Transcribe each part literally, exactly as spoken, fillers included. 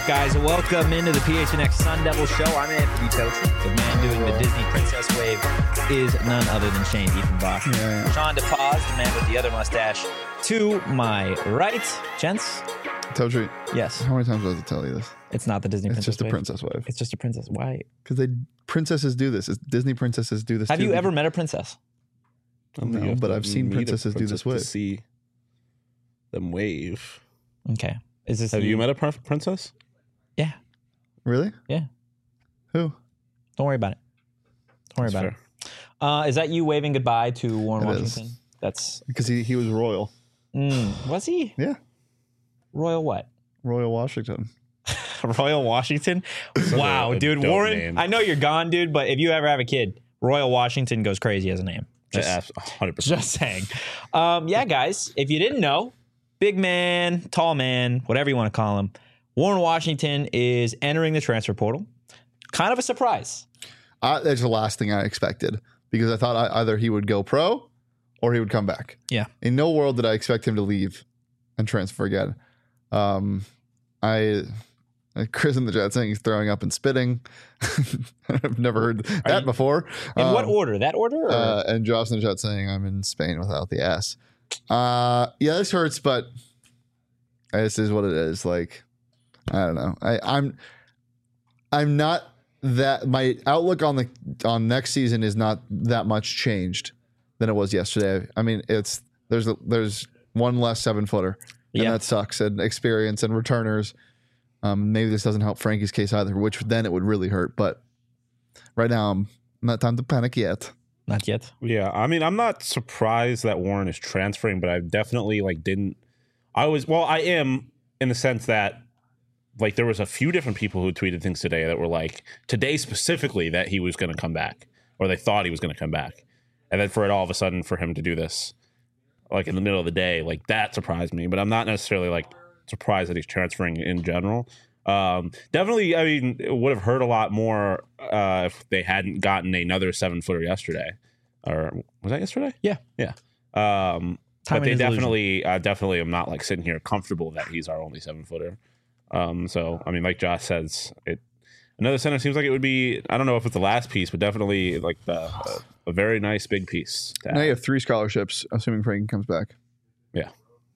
up, guys? Welcome into the P H N X Sun Devil Show. I'm Anthony Tosi. The man doing the Disney Princess Wave is none other than Shane Diefenbach. Yeah, yeah. Sean DePaz, the man with the other mustache, to my right. Gents? Toshi. Yes. How many times do I have to tell you this? It's not the Disney it's Princess just a Wave. princess wave. It's just a princess. Why? Because they princesses do this. It's, Disney princesses do this Have too. you ever met a princess? No, but I've seen princesses do this wave. To see them wave. Okay. Is this Have you? you met a pr- princess? Yeah. Really? Yeah. Who? Don't worry about it. Don't worry That's about fair. it. Uh, is that you waving goodbye to Warren It Washington? is. That's Because he, he was royal. mm, was he? Yeah. Royal what? Royal Washington. Royal Washington? Wow, a dude. dope Warren, name. I know you're gone, dude, but if you ever have a kid, Royal Washington goes crazy as a name. Just, Just, one hundred percent. just saying. Um, yeah, guys, if you didn't know, big man, tall man, whatever you want to call him, Warren Washington is entering the transfer portal. Kind of a surprise. Uh, that's the last thing I expected because I thought I, either he would go pro or he would come back. Yeah. In no world did I expect him to leave and transfer again. Um, I, Chris in the chat saying he's throwing up and spitting. I've never heard that you- before. In Um, what order? That order? Or? Uh, and Josh in the chat saying I'm in Spain without the S. Uh, yeah, this hurts, but this is what it is. Like, I don't know. I, I'm, I'm not that. My outlook on the on next season is not that much changed than it was yesterday. I mean, it's there's a, there's one less seven footer, and Yeah. that sucks. And experience and returners. Um, maybe this doesn't help Frankie's case either, which then it would really hurt. But right now, I'm not time to panic yet. Not yet. Yeah, I mean, I'm not surprised that Warren is transferring, but I definitely like didn't. I was well, I am in the sense that like there was a few different people who tweeted things today that were like today specifically that he was going to come back or they thought he was going to come back, and then for it all of a sudden for him to do this like in the middle of the day, like that surprised me. But I'm not necessarily like surprised that he's transferring in general. Um, definitely, I mean, it would have hurt a lot more uh, if they hadn't gotten another seven footer yesterday. Or was that yesterday? Yeah. Yeah. Um, Time but they and disillusion. definitely, uh, definitely am not like sitting here comfortable that he's our only seven footer. Um, so, I mean, like Josh says, it another center seems like it would be, I don't know if it's the last piece, but definitely like the, uh, a very nice big piece. to Now add. you have three scholarships, assuming Frankie comes back. Yeah.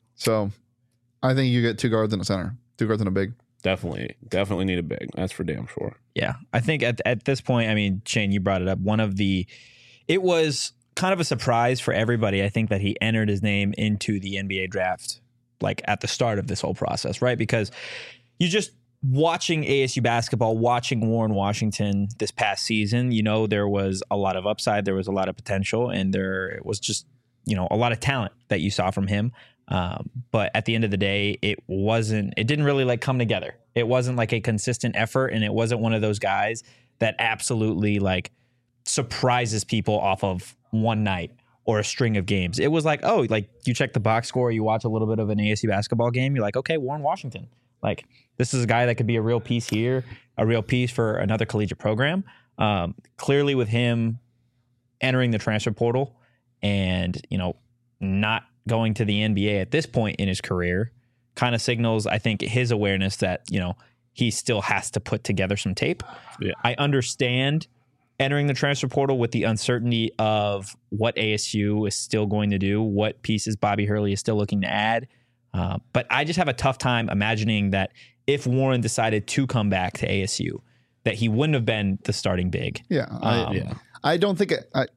So I think you get two guards and a center, two guards and a big. Definitely, definitely need a big. That's for damn sure. Yeah, I think at at this point, I mean, Shane, you brought it up. One of the, it was kind of a surprise for everybody. I think that he entered his name into the N B A draft, like at the start of this whole process, right? Because you just watching A S U basketball, watching Warren Washington this past season, you know, there was a lot of upside, there was a lot of potential, and there was just, you know, a lot of talent that you saw from him. Um, but at the end of the day, it wasn't, it didn't really like come together. It wasn't like a consistent effort, and it wasn't one of those guys that absolutely like surprises people off of one night or a string of games. It was like, oh, like you check the box score, you watch a little bit of an A S U basketball game, you're like, okay, Warren Washington. Like, this is a guy that could be a real piece here, a real piece for another collegiate program. Um, clearly with him entering the transfer portal and, you know, not going to the N B A at this point in his career kind of signals, I think, his awareness that, you know, he still has to put together some tape. Yeah. I understand entering the transfer portal with the uncertainty of what A S U is still going to do, what pieces Bobby Hurley is still looking to add. Uh, but I just have a tough time imagining that if Warren decided to come back to A S U, that he wouldn't have been the starting big. Yeah. I, Um, yeah. I don't think it, I,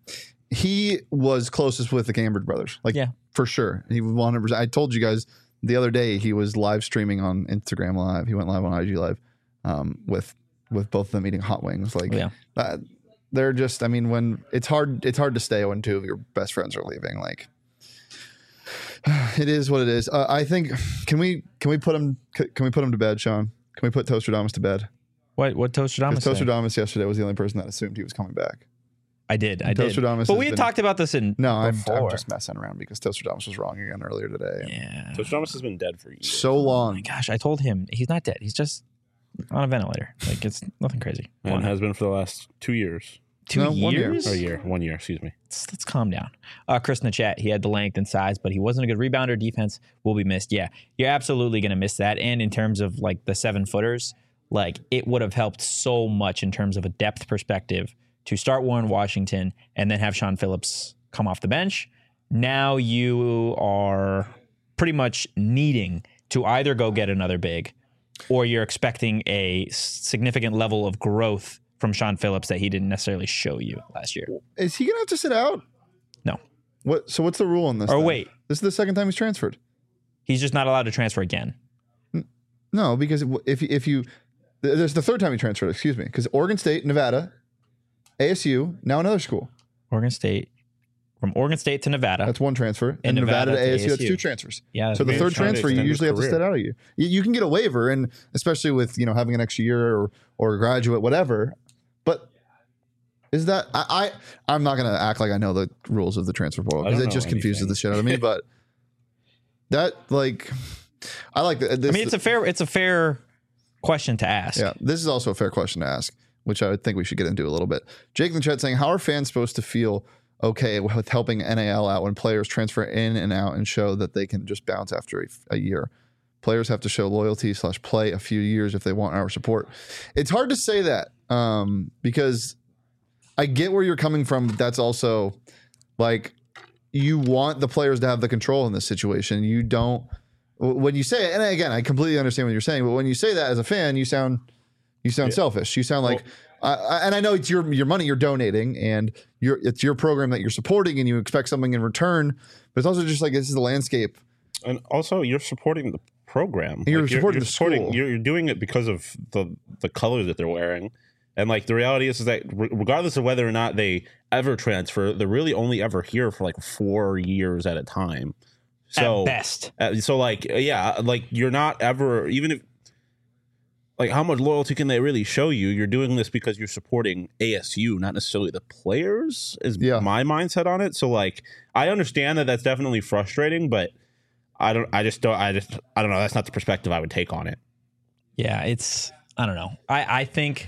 he was closest with the Cambridge brothers. Like, Yeah. for sure. He was one hundred percent. I told you guys the other day he was live streaming on Instagram Live. He went live on I G Live um, with with both of them eating hot wings. Like, Yeah. uh, they're just, I mean, when it's hard, it's hard to stay when two of your best friends are leaving. Like, it is what it is. Uh, I think, can we, can we put him, can we put him to bed, Sean? Can we put Tostradamus to bed? What what Tostradamus Because said? Tostradamus yesterday was the only person that assumed he was coming back. I did. I did. Tostradamus But has we had been- talked about this in No, I'm, before. I'm just messing around because Tostradamus was wrong again earlier today. Yeah. Coach Thomas has been dead for years. So Oh my long. gosh, I told him he's not dead. He's just on a ventilator. Like, it's nothing crazy. Come and on. has been for the last two years. Two No, one year. years? Or a year. One year, excuse me. Let's, let's calm down. Uh, Chris in the chat, he had the length and size, but he wasn't a good rebounder. Defense will be missed. Yeah, you're absolutely going to miss that. And in terms of like the seven footers, like it would have helped so much in terms of a depth perspective to start Warren Washington and then have Sean Phillips come off the bench. Now you are pretty much needing to either go get another big, or you're expecting a significant level of growth from Sean Phillips that he didn't necessarily show you last year. Is he going to have to sit out? No. What? So what's the rule on this? Or then? wait. This is the second time he's transferred. He's just not allowed to transfer again. No, because if if you, there's the third time he transferred. Excuse me, because Oregon State, Nevada, A S U, now another school. Oregon State, from Oregon State to Nevada. That's one transfer, and, And Nevada, Nevada to to A S U, that's A S U. two transfers. Yeah. So the Maybe third trying to transfer, you extend his usually have to career. sit out a year. You, you can get a waiver, and especially with you know having an extra year or or a graduate, whatever. But is that I, I I'm not gonna act like I know the rules of the transfer portal I because don't it just know confuses anything. the shit out of me. But that like, I like the, this. I mean, it's a fair, it's a fair question to ask. Yeah, this is also a fair question to ask, which I think we should get into a little bit. Jake in the chat saying, how are fans supposed to feel okay with helping N A L out when players transfer in and out and show that they can just bounce after a, a year? Players have to show loyalty slash play a few years if they want our support. It's hard to say that um, because I get where you're coming from, but that's also like you want the players to have the control in this situation. You don't. When you say it, and again, I completely understand what you're saying, but when you say that as a fan, you sound you sound Yeah. selfish. You sound like, well, I, I, and I know it's your your money you're donating, and you're it's your program that you're supporting, and you expect something in return. But it's also just like this is the landscape. And also, you're supporting the program. You're Like, supporting you're the supporting, school. You're, you're doing it because of the the colors that they're wearing. And like the reality is, is that re- regardless of whether or not they ever transfer, they're really only ever here for like four years at a time. So At best. Uh, so like yeah, like you're not ever, even if like how much loyalty can they really show you? You're doing this because you're supporting A S U, not necessarily the players. Is Yeah. my mindset on it. So like I understand that that's definitely frustrating, but I don't. I just don't. I just. I don't know. That's not the perspective I would take on it. Yeah, it's I don't know. I I think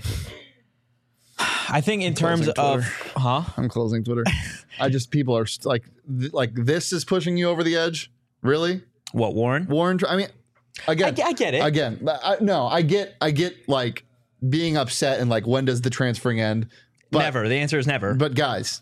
I think in terms Closing of Twitter. huh? I'm closing Twitter. I just people are st- like th- like this is pushing you over the edge. Really, What, Warren? Warren? I mean, I, again, I get it. again, but I, no, I get, I get like being upset and like when does the transferring end? But, never. The answer is never. But guys,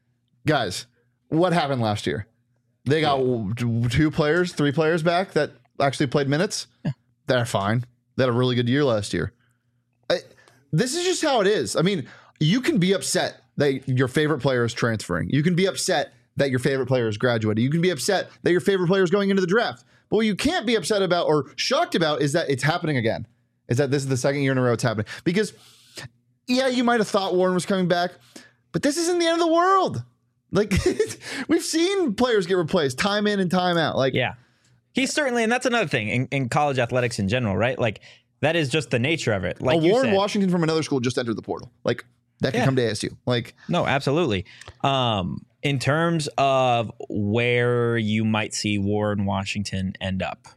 guys, what happened last year? They got w- two players, three players back that actually played minutes. Yeah. They're fine. They had a really good year last year. I, this is just how it is. I mean, you can be upset that your favorite player is transferring. You can be upset that your favorite player is graduating. You can be upset that your favorite player is going into the draft. But what you can't be upset about or shocked about is that it's happening again. Is that this is the second year in a row it's happening. Because, yeah, you might have thought Warren was coming back, but this isn't the end of the world. Like, we've seen players get replaced time in and time out. Like, Yeah. He's certainly, and that's another thing in, in college athletics in general, right? Like, that is just the nature of it. Like a you Warren said. Washington from another school just entered the portal. Like, that could Yeah. come to A S U. Like, No, absolutely. Um, in terms of where you might see Warren Washington end up,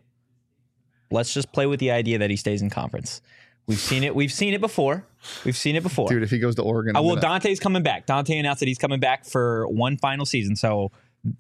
let's just play with the idea that he stays in conference. We've seen it. We've seen it before. We've seen it before. dude, if he goes to Oregon, Uh, I'm well, gonna- Dante's coming back. Dante announced that he's coming back for one final season. So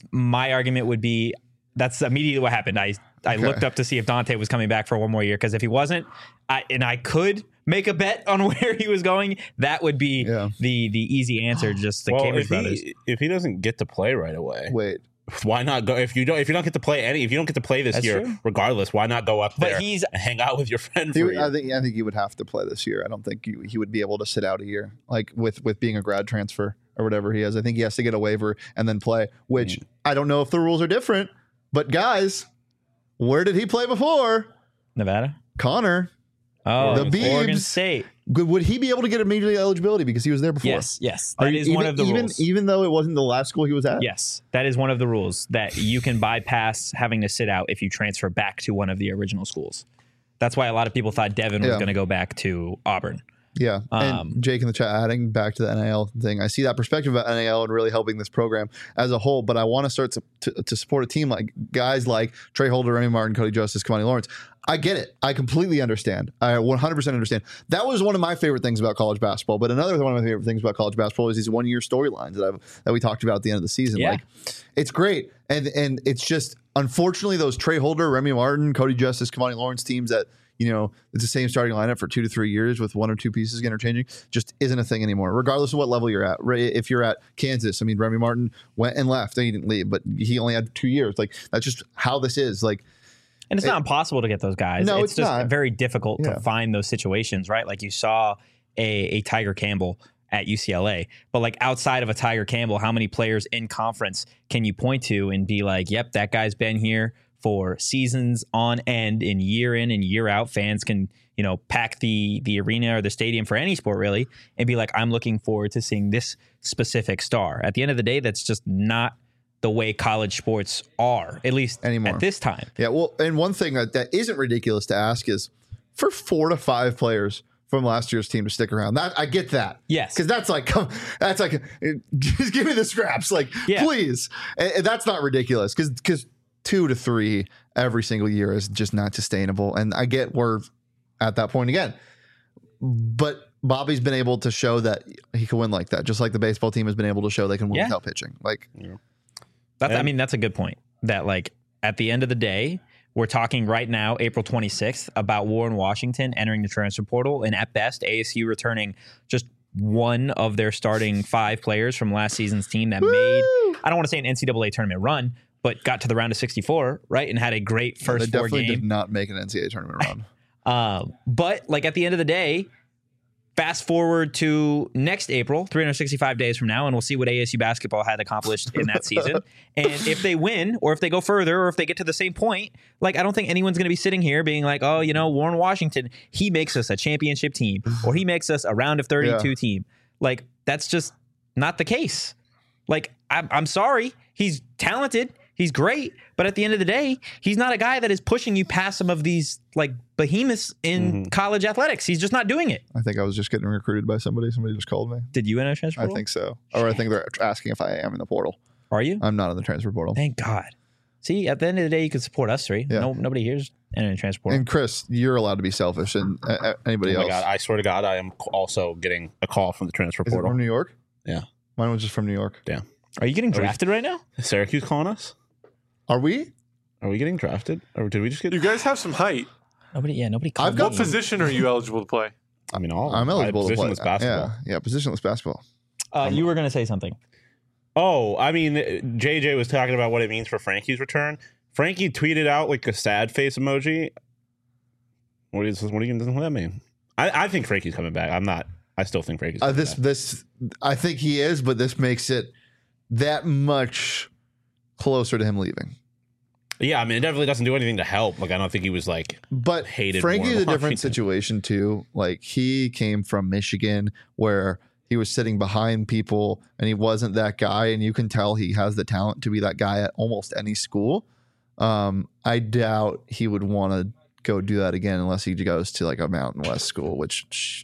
my argument would be that's immediately what happened. I I Okay. looked up to see if Dante was coming back for one more year because if he wasn't, I and I could make a bet on where he was going, that would be Yeah. the the easy answer. Just the well, Cambridge if brothers. he if he doesn't get to play right away, wait. why not go? If you don't, if you don't get to play any, if you don't get to play this That's year, true. regardless, why not go up But there he's- and hang out with your friend He for would, a year? I think I think he would have to play this year. I don't think he, he would be able to sit out a year, like with with being a grad transfer or whatever he has. I think he has to get a waiver and then play. Which Mm. I don't know if the rules are different, but guys, where did he play before? Nevada. Connor. Oh, The Oregon Beebs. State. Good- Would he be able to get immediate eligibility because he was there before? Yes, yes. Are That you- is even, one of the even, rules. Even though it wasn't the last school he was at? Yes, that is one of the rules that you can bypass having to sit out if you transfer back to one of the original schools. That's why a lot of people thought Devin was Yeah. going to go back to Auburn. Yeah. Um, and Jake in the chat adding back to the N I L thing. I see that perspective about N I L and really helping this program as a whole, but I want to start to, to, to support a team like guys like Trey Holder, Remy Martin, Cody Justice, Kamani Lawrence. I get it. I completely understand. I one hundred percent understand. That was one of my favorite things about college basketball, but another one of my favorite things about college basketball is these one year storylines that I've that we talked about at the end of the season. Yeah. Like it's great. And and it's just unfortunately those Trey Holder, Remy Martin, Cody Justice, Kamani Lawrence teams that you know, it's the same starting lineup for two to three years with one or two pieces interchanging just isn't a thing anymore, regardless of what level you're at. If you're at Kansas, I mean, Remy Martin went and left. He didn't leave, but he only had two years. Like, that's just how this is. Like, and it's it, not impossible to get those guys. No, it's, it's just not. very difficult yeah. to find those situations, right? Like you saw a, a Tiger Campbell at U C L A, but like outside of a Tiger Campbell, how many players in conference can you point to and be like, yep, that guy's been here for seasons on end, and year in and year out, fans can, you know, pack the the arena or the stadium for any sport really and be like, I'm looking forward to seeing this specific star. At the end of the day, that's just not the way college sports are, at least anymore at this time. Yeah, well, and one thing that, that isn't ridiculous to ask is for four to five players from last year's team to stick around. That I get that. Yes. Because that's like, come, that's like, just give me the scraps. Like, yeah. please. And, and that's not ridiculous because because two to three every single year is just not sustainable. And I get we're at that point again. But Bobby's been able to show that he can win like that, just like the baseball team has been able to show they can win yeah. without pitching. Like, yeah. that's, I mean, that's a good point. That like at the end of the day, we're talking right now, April twenty-sixth, about Warren Washington entering the transfer portal, and at best, A S U returning just one of their starting five players from last season's team that Woo! made, I don't want to say an N C double A tournament run, but got to the round of sixty-four, right, and had a great first yeah, they four definitely game. Did not make an N C double A tournament run. um, but like at the end of the day, fast forward to next April, three hundred sixty-five days from now, and we'll see what A S U basketball had accomplished in that season. And if they win, or if they go further, or if they get to the same point, like I don't think anyone's going to be sitting here being like, oh, you know, Warren Washington, he makes us a championship team, or he makes us a round of thirty-two yeah. team. Like that's just not the case. Like I'm, I'm sorry, he's talented. He's great, but at the end of the day, he's not a guy that is pushing you past some of these like behemoths in mm-hmm. college athletics. He's just not doing it. I think I was just getting recruited by somebody. Somebody just called me. Did you enter transfer portal? I think so. Or I think they're asking if I am in the portal. Are you? I'm not in the transfer portal. Thank God. See, at the end of the day, you can support us three. Yeah. No, nobody here's entering transfer portal. And Chris, you're allowed to be selfish, and uh, anybody oh my else. God, I swear to God, I am also getting a call from the transfer Is portal. It from New York? Yeah. Mine was just from New York. Damn. Are you getting drafted we, right now? Is Syracuse calling us? Are we? Are we getting drafted? Or did we just get... You guys have some height. Nobody, yeah, nobody called I've got me. What position are you eligible to play? I mean, all I'm eligible to play. Positionless basketball. Yeah, yeah, positionless basketball. Uh, you were going to say something. Oh, I mean, J J was talking about what it means for Frankie's return. Frankie tweeted out like a sad face emoji. What is what do you doesn't what that mean? I, I think Frankie's coming back. I'm not. I still think Frankie's coming uh, this back. this I think he is, but this makes it that much closer to him leaving. Yeah, I mean, it definitely doesn't do anything to help. Like, I don't think he was like, but hated. Frankie's more a different situation too. Like, he came from Michigan, where he was sitting behind people, and he wasn't that guy. And you can tell he has the talent to be that guy at almost any school. Um, I doubt he would want to go do that again unless he goes to like a Mountain West school. Which,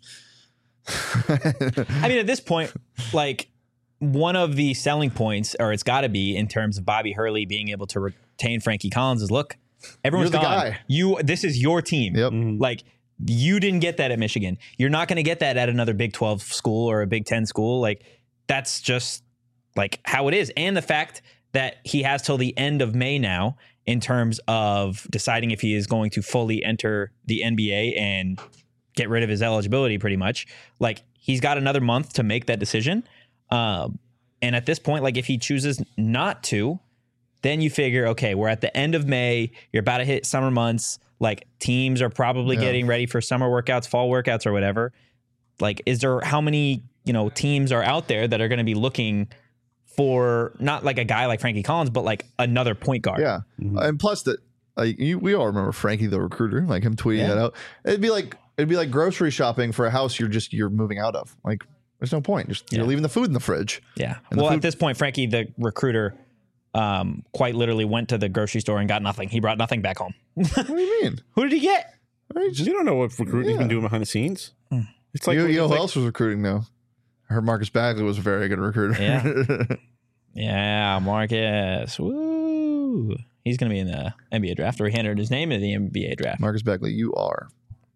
I mean, at this point, like. One of the selling points, or it's got to be in terms of Bobby Hurley being able to retain Frankie Collins, is look, everyone's You're the gone. Guy. You, this is your team. Yep. Mm-hmm. Like you didn't get that at Michigan. You're not going to get that at another Big twelve school or a Big ten school. Like that's just like how it is. And the fact that he has till the end of May now in terms of deciding if he is going to fully enter the N B A and get rid of his eligibility, pretty much. Like he's got another month to make that decision. Um, and at this point, like if he chooses not to, then you figure, okay, we're at the end of May. You're about to hit summer months. Like teams are probably yeah. getting ready for summer workouts, fall workouts or whatever. Like, is there how many, you know, teams are out there that are going to be looking for not like a guy like Frankie Collins, but like another point guard? Yeah. Mm-hmm. And plus that, like you, we all remember Frankie, the recruiter, like him tweeting yeah. that out. It'd be like, it'd be like grocery shopping for a house you're just, you're moving out of. Like, there's no point. Just yeah. you're leaving the food in the fridge. Yeah. Well, food- at this point, Frankie, the recruiter, um, quite literally went to the grocery store and got nothing. He brought nothing back home. What do you mean? Who did he get? You don't know what recruiting's yeah. been doing behind the scenes. Mm. It's like you, you know who like, else was recruiting though? I heard Marcus Bagley was a very good recruiter. Yeah. yeah, Marcus. Woo. He's going to be in the N B A draft, or he entered his name in the N B A draft. Marcus Bagley, you are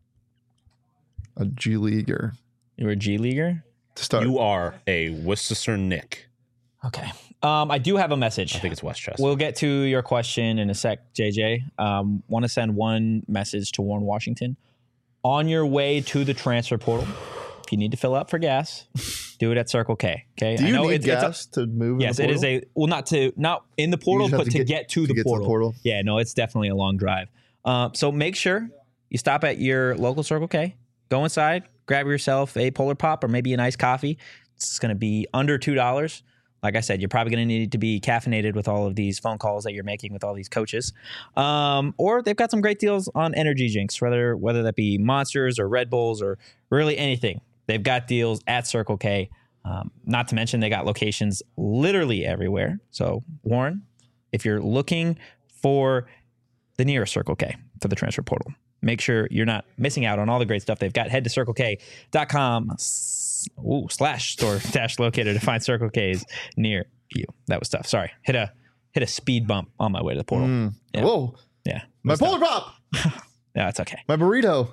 a G Leaguer. You were a G Leaguer? To start. You are a Worcester Nick. Okay. Um, I do have a message. I think it's Westchester. We'll get to your question in a sec, J J. Um, want to send one message to Warren Washington. on your way to the transfer portal, if you need to fill up for gas, do it at Circle K. Okay. Do you I know need it's, it's gas a, to move? in yes, the it is portal? a well, not to not in the portal, just have but to to get- get, to, to the, get to the portal. portal? Yeah, no, it's definitely a long drive. Uh, so make sure you stop at your local Circle K, go inside, grab yourself a Polar Pop or maybe an iced coffee. It's going to be under two dollars. Like I said, you're probably going to need to be caffeinated with all of these phone calls that you're making with all these coaches. Um, or they've got some great deals on energy drinks, whether whether that be Monsters or Red Bulls or really anything. They've got deals at Circle K. Um, not to mention they got locations literally everywhere. So Warren, if you're looking for the nearest Circle K for the transfer portal, make sure you're not missing out on all the great stuff they've got. Head to circle k dot com ooh, slash store dash locator to find Circle K's near you. That was tough. Sorry. Hit a hit a speed bump on my way to the portal. Mm. Yeah. Whoa. Yeah. My Polar Pop. No, it's okay. My burrito.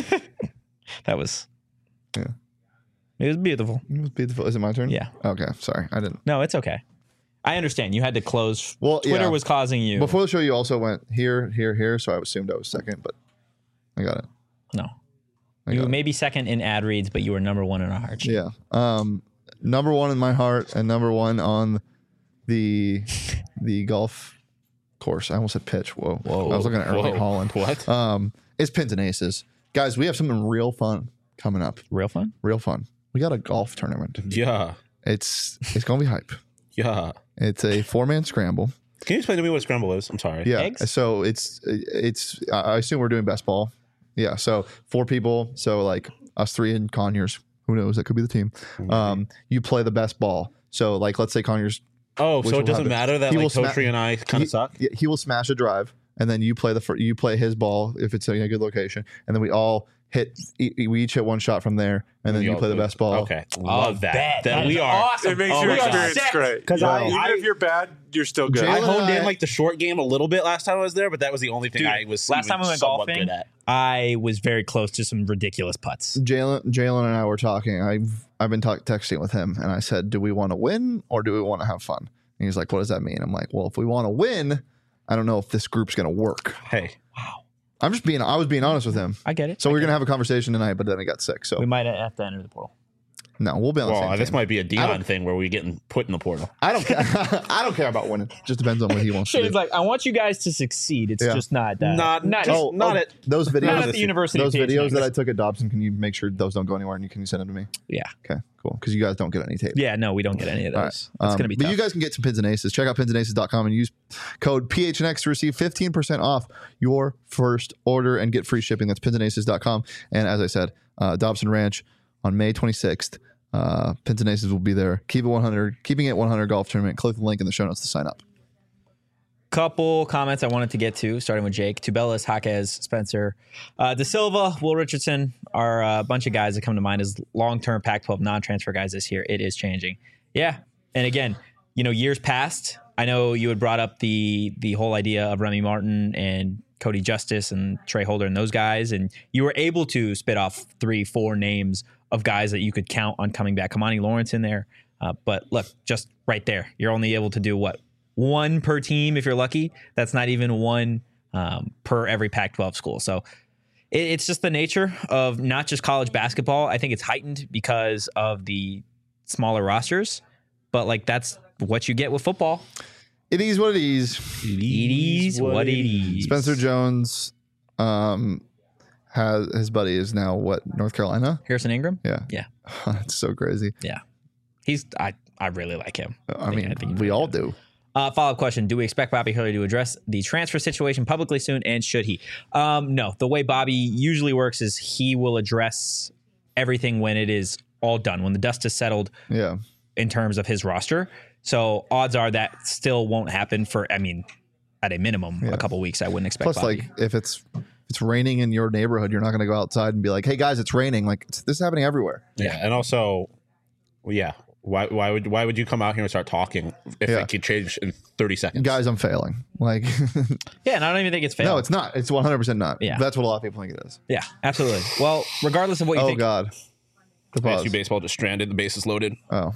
That was Yeah. It was beautiful. It was beautiful. Is it my turn? Yeah. Okay. Sorry. I didn't. No, it's okay. I understand. You had to close. Well, Twitter yeah. was causing you. Before the show, you also went here, here, here. So I assumed I was second, but I got it. no. I You got were it. maybe second in ad reads, but you were number one in our hearts. Yeah. Um, number one in my heart and number one on the the golf course. I almost said pitch. Whoa. Whoa. I was looking at Erling Whoa. Holland. What? Um, it's Pins and Aces. Guys, we have something real fun coming up. Real fun? Real fun. We got a golf tournament. Yeah. It's it's gonna be hype. Yeah. It's a four man scramble. Can you explain to me what scramble is? I'm sorry. Yeah. Eggs? So it's it's I assume we're doing best ball. Yeah. So four people. So like us three and Conyers. Who knows? That could be the team. Um, you play the best ball. So like let's say Conyers. Oh, Which so will it doesn't happen. matter that He like will sma- Totri and I kind he, of suck? yeah, he will smash a drive, and then you play the fir- you play his ball if it's in a good location, and then we all hit. e- We each hit one shot from there, and then We you all play the do it. best ball. Okay. Love that. bet. That, That we is are. awesome. It makes Oh your my God. experience Set. great. 'Cause Yeah. I- Even I- if you're bad, you're still good. Jalen- I and honed I- in like the short game a little bit last time I was there, but that was the only thing Dude, I was last time even we went somewhat golfing, good at. I was very close to some ridiculous putts. Jalen, Jalen, and I were talking. I've I've been talk, texting with him, and I said, "Do we want to win or do we want to have fun?" And he's like, "What does that mean?" I'm like, "Well, if we want to win, I don't know if this group's gonna work." Hey, I'm just being. I was being honest with him. I get it. So I we are get gonna have a conversation tonight, but then I got sick. So it. We might have to enter the portal. no, we'll be on the well, same this team. might be a I Dion don't- thing where we getting put in the portal. I don't care. I don't care about winning. Just depends on what he wants to Shane's do. like, I want you guys to succeed. It's Yeah. just not that. Not- not, just- oh, not oh, at- those videos. not at the University those of P H videos N. that I took at Dobson. Can you make sure those don't go anywhere and you can you send them to me? Yeah. Okay, cool. Because you guys don't get any tape. Yeah, no, we don't get any of those. All right. That's Um, going to be but tough. you guys can get some pins and aces. Check out pins and aces dot com and use code P H N X to receive fifteen percent off your first order and get free shipping. That's pins and aces dot com. And as I said, uh, Dobson Ranch on May twenty-sixth. Uh, Pins and Aces will be there. Keep it one hundred. Keeping it one hundred golf tournament. Click the link in the show notes to sign up. Couple comments I wanted to get to, starting with Jake. Tubelis, Jaquez, Spencer, uh, De Silva, Will Richardson are a bunch of guys that come to mind as long-term Pac twelve non-transfer guys this year. It is changing. Yeah. And again, you know, years past, I know you had brought up the the whole idea of Remy Martin and Cody Justice and Trey Holder and those guys, and you were able to spit off three, four names of guys that you could count on coming back. Kamani Lawrence in there. Uh, but look, just right there, you're only able to do what? One per team if you're lucky. That's not even one um, per every Pac twelve school. So it, it's just the nature of not just college basketball. I think it's heightened because of the smaller rosters, but like that's what you get with football. It is what it is. It is what it is. Spencer Jones, um, has his buddy is now what, North Carolina? Harrison Ingram. Yeah, Yeah. That's so crazy. Yeah. He's I, I really like him. I think- mean, I think he's we really all good. do. Uh, follow-up question. Do we expect Bobby Hurley to address the transfer situation publicly soon, and should he? Um, no. The way Bobby usually works is he will address everything when it is all done, when the dust is settled Yeah. in terms of his roster. So odds are that still won't happen for, I mean, at a minimum, Yeah. a couple weeks. I wouldn't expect Plus, Bobby. like, if it's if it's raining in your neighborhood, you're not going to go outside and be like, "Hey guys, it's raining." Like, it's, this is happening everywhere. Yeah, and also, well, yeah. Why? Why would? Why would you come out here and start talking if Yeah. it could change in thirty seconds? Guys, I'm failing. Like, yeah, and I don't even think it's fair. no, it's not. It's one hundred percent not. Yeah. That's what a lot of people think it is. Yeah, absolutely. Well, regardless of what you Oh think, God. The Fantasy pause. baseball just stranded. The base is loaded. Oh,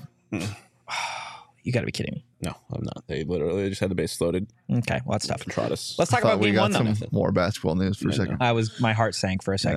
you got to be kidding me. No, I'm not. They literally just had the base loaded. Okay, well, that's tough. Trot us. Let's I talk thought about we game got one, though. some more basketball news for a second. I was, my heart sank for a second.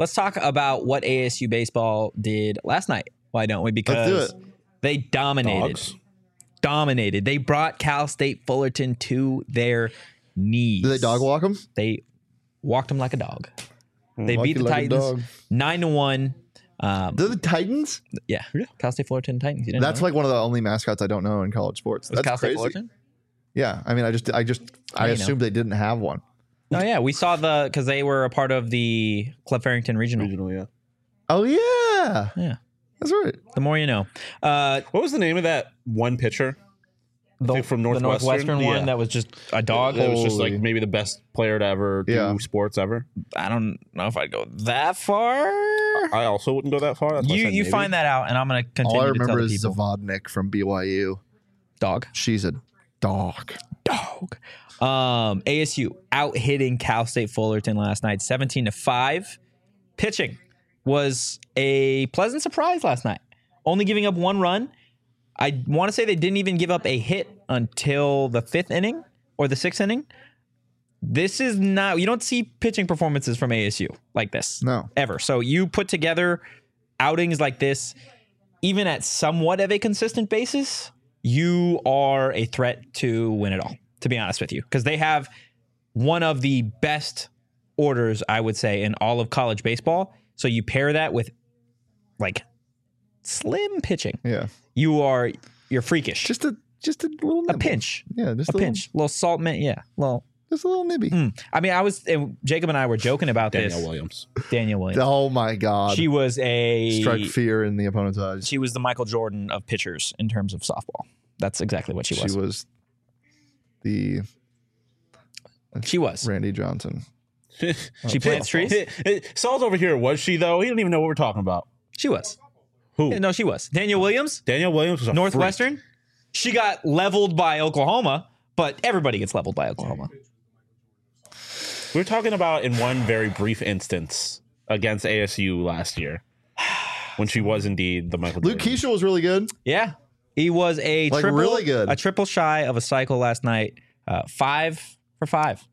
let's talk about what A S U baseball did last night. Why don't we? Because Let's do they dominated. Dogs. Dominated. They brought Cal State Fullerton to their knees. Did they dog walk them? They walked them like a dog. They Walk beat you the like a dog. Titans nine to one. Um, They're the Titans? yeah, Cal State Fullerton Titans. You didn't That's know like one of the only mascots I don't know in college sports. that? Was That's Cal State crazy. Fullerton? Yeah, I mean, I just, I just, I you know. assumed they didn't have one. Oh yeah, we saw the because they were a part of the Club Farrington Regional. Regional, yeah. Oh yeah, Yeah, that's right. the more you know. Uh, What was the name of that one pitcher? the, think from the Northwestern? Northwestern one Yeah. that was just a dog. It was just like Holy. maybe the best player to ever do Yeah. sports ever. I don't know if I'd go that far. I also wouldn't go that far. That's why I You said you maybe. find that out, and I'm gonna continue All I to tell remember the is people. Zavodnik from B Y U. Dog. She's a dog. Dog. Um, A S U out hitting Cal State Fullerton last night, seventeen to five. Pitching was a pleasant surprise last night. Only giving up one run. I want to say they didn't even give up a hit until the fifth inning or the sixth inning. This is not, you don't see pitching performances from A S U like this. No. Ever. So you put together outings like this, even at somewhat of a consistent basis, you are a threat to win it all, to be honest with you. Because they have one of the best orders, I would say, in all of college baseball. So you pair that with like slim pitching. Yeah, You are, you're freakish. just a, just a little a nibble. pinch. Yeah, just A a, pinch. A little salt mint. Yeah. Well, just a little nibby. mm. I mean, I was, and Jacob and I were joking about Danielle this. Williams. Danielle Williams. Oh my God! She was a Strike fear in the opponent's eyes. she was the Michael Jordan of pitchers in terms of softball. That's exactly what she was. She was the She was. Randy Johnson. She plants trees. Saul's over here. Was she though? He don't even know what we're talking about. She was. Who? Yeah, no, she was. Danielle Williams, Danielle Williams was a Northwestern. freak. She got leveled by Oklahoma, but everybody gets leveled by Oklahoma. We were talking about in one very brief instance against A S U last year when she was indeed the Michael Luke Jordan. Keisha was really good. Yeah, he was a Like, triple, really good. a triple shy of a cycle last night. Uh, five for five.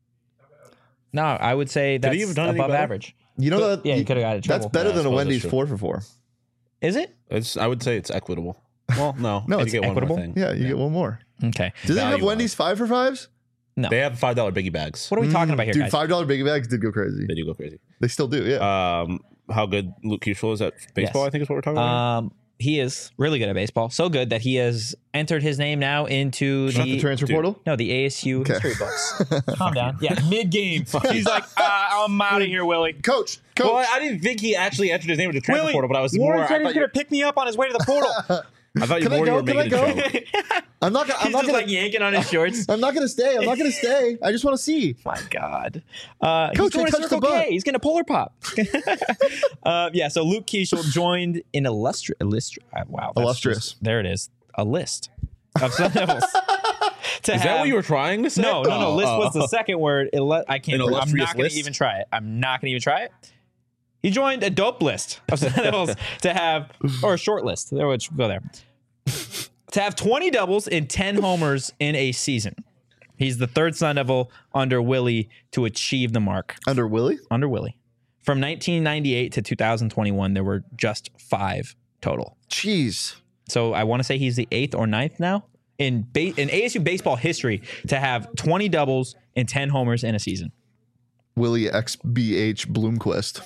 No, I would say that's he have done any above better? average. You know that? Yeah, you could have got it. That's better Yeah, I than a suppose Wendy's that's four for four. Is it? It's, I would say it's equitable. Well, no, No, you it's get one more equitable? thing. Yeah, you get one more. Okay. Do they have Value Wendy's five for fives? No. They have five dollar biggie bags. What are we talking about here, Dude, guys? five dollar biggie bags did go crazy. They do go crazy. They still do. Yeah. Um, how good Luke Keisha is at baseball? Yes. I think is what we're talking about. Um, he is really good at baseball. So good that he has entered his name now into Not the, the transfer dude. portal. no the A S U history books. Calm down. Yeah, mid game. He's like, uh, I'm out of here, Willie. Coach, coach. Well, I didn't think he actually entered his name into the transfer Willie, portal, but I was Warren more. I said he's thought, you, gonna pick me up on his way to the portal. I thought you Can I more you go? were Can I making go? a joke. I'm not. gonna- I'm He's not just gonna. like yanking on his shorts. I'm not gonna stay. I'm not gonna stay. I just want to see. My God, uh, Coach, he's going I to touched Circle the butt. K. He's going to Polar Pop. uh, yeah, so Luke Keisha joined an illustrious, illustri- uh, wow, that's Illustrious. just- there it is, a list of Sun Devils. To Is that what you were trying to say? No, no, no. Oh, List oh, was the second word. Illu- I can't. An I'm illustrious not going list? to even try it. I'm not going to even try it. He joined a dope list of Sun Devils to have, or a short list. There, which go there. To have twenty doubles and ten homers in a season. He's the third Sun Devil under Willie to achieve the mark. Under Willie? Under Willie. From nineteen ninety-eight to two thousand twenty-one, there were just five total. Jeez. So I want to say he's the eighth or ninth now in ba- in A S U baseball history to have twenty doubles and ten homers in a season. Willie X B H Bloomquist.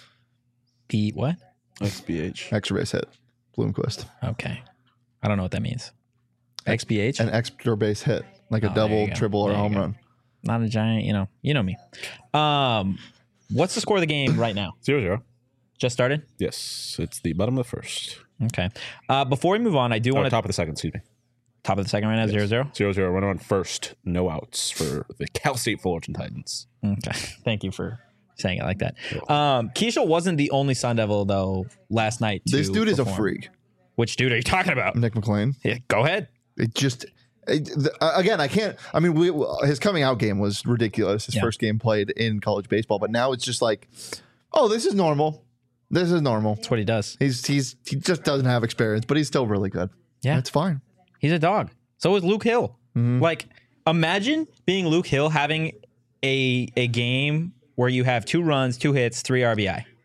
The what? X B H. Extra base hit. Bloomquist. Okay. I don't know what that means. X B H? An extra base hit. Like a Oh, there double, you go. triple, or There you home go. run. Not a giant, you know. You know me. Um, what's the score of the game right now? Zero zero. Just started? Yes, it's the bottom of the first. Okay. Uh, before we move on, I do Oh, want to top of the second. Excuse me. top of the second right now, zero zero. Zero zero. Runner on first. No outs for the Cal State Fullerton Titans. Okay. Thank you for saying it like that. Um, Keisha wasn't the only Sun Devil though last night. To This dude is a perform. freak. Which dude are you talking about? Nick McLean. Yeah, go ahead. It just it, the, uh, again, I can't. I mean, we, his coming out game was ridiculous. His Yeah. first game played in college baseball, but now it's just like, oh, this is normal. This is normal. That's what he does. He's he's he just doesn't have experience, but he's still really good. Yeah. It's fine. He's a dog. So is Luke Hill. Like, imagine being Luke Hill having a a game where you have two runs, two hits, three R B I.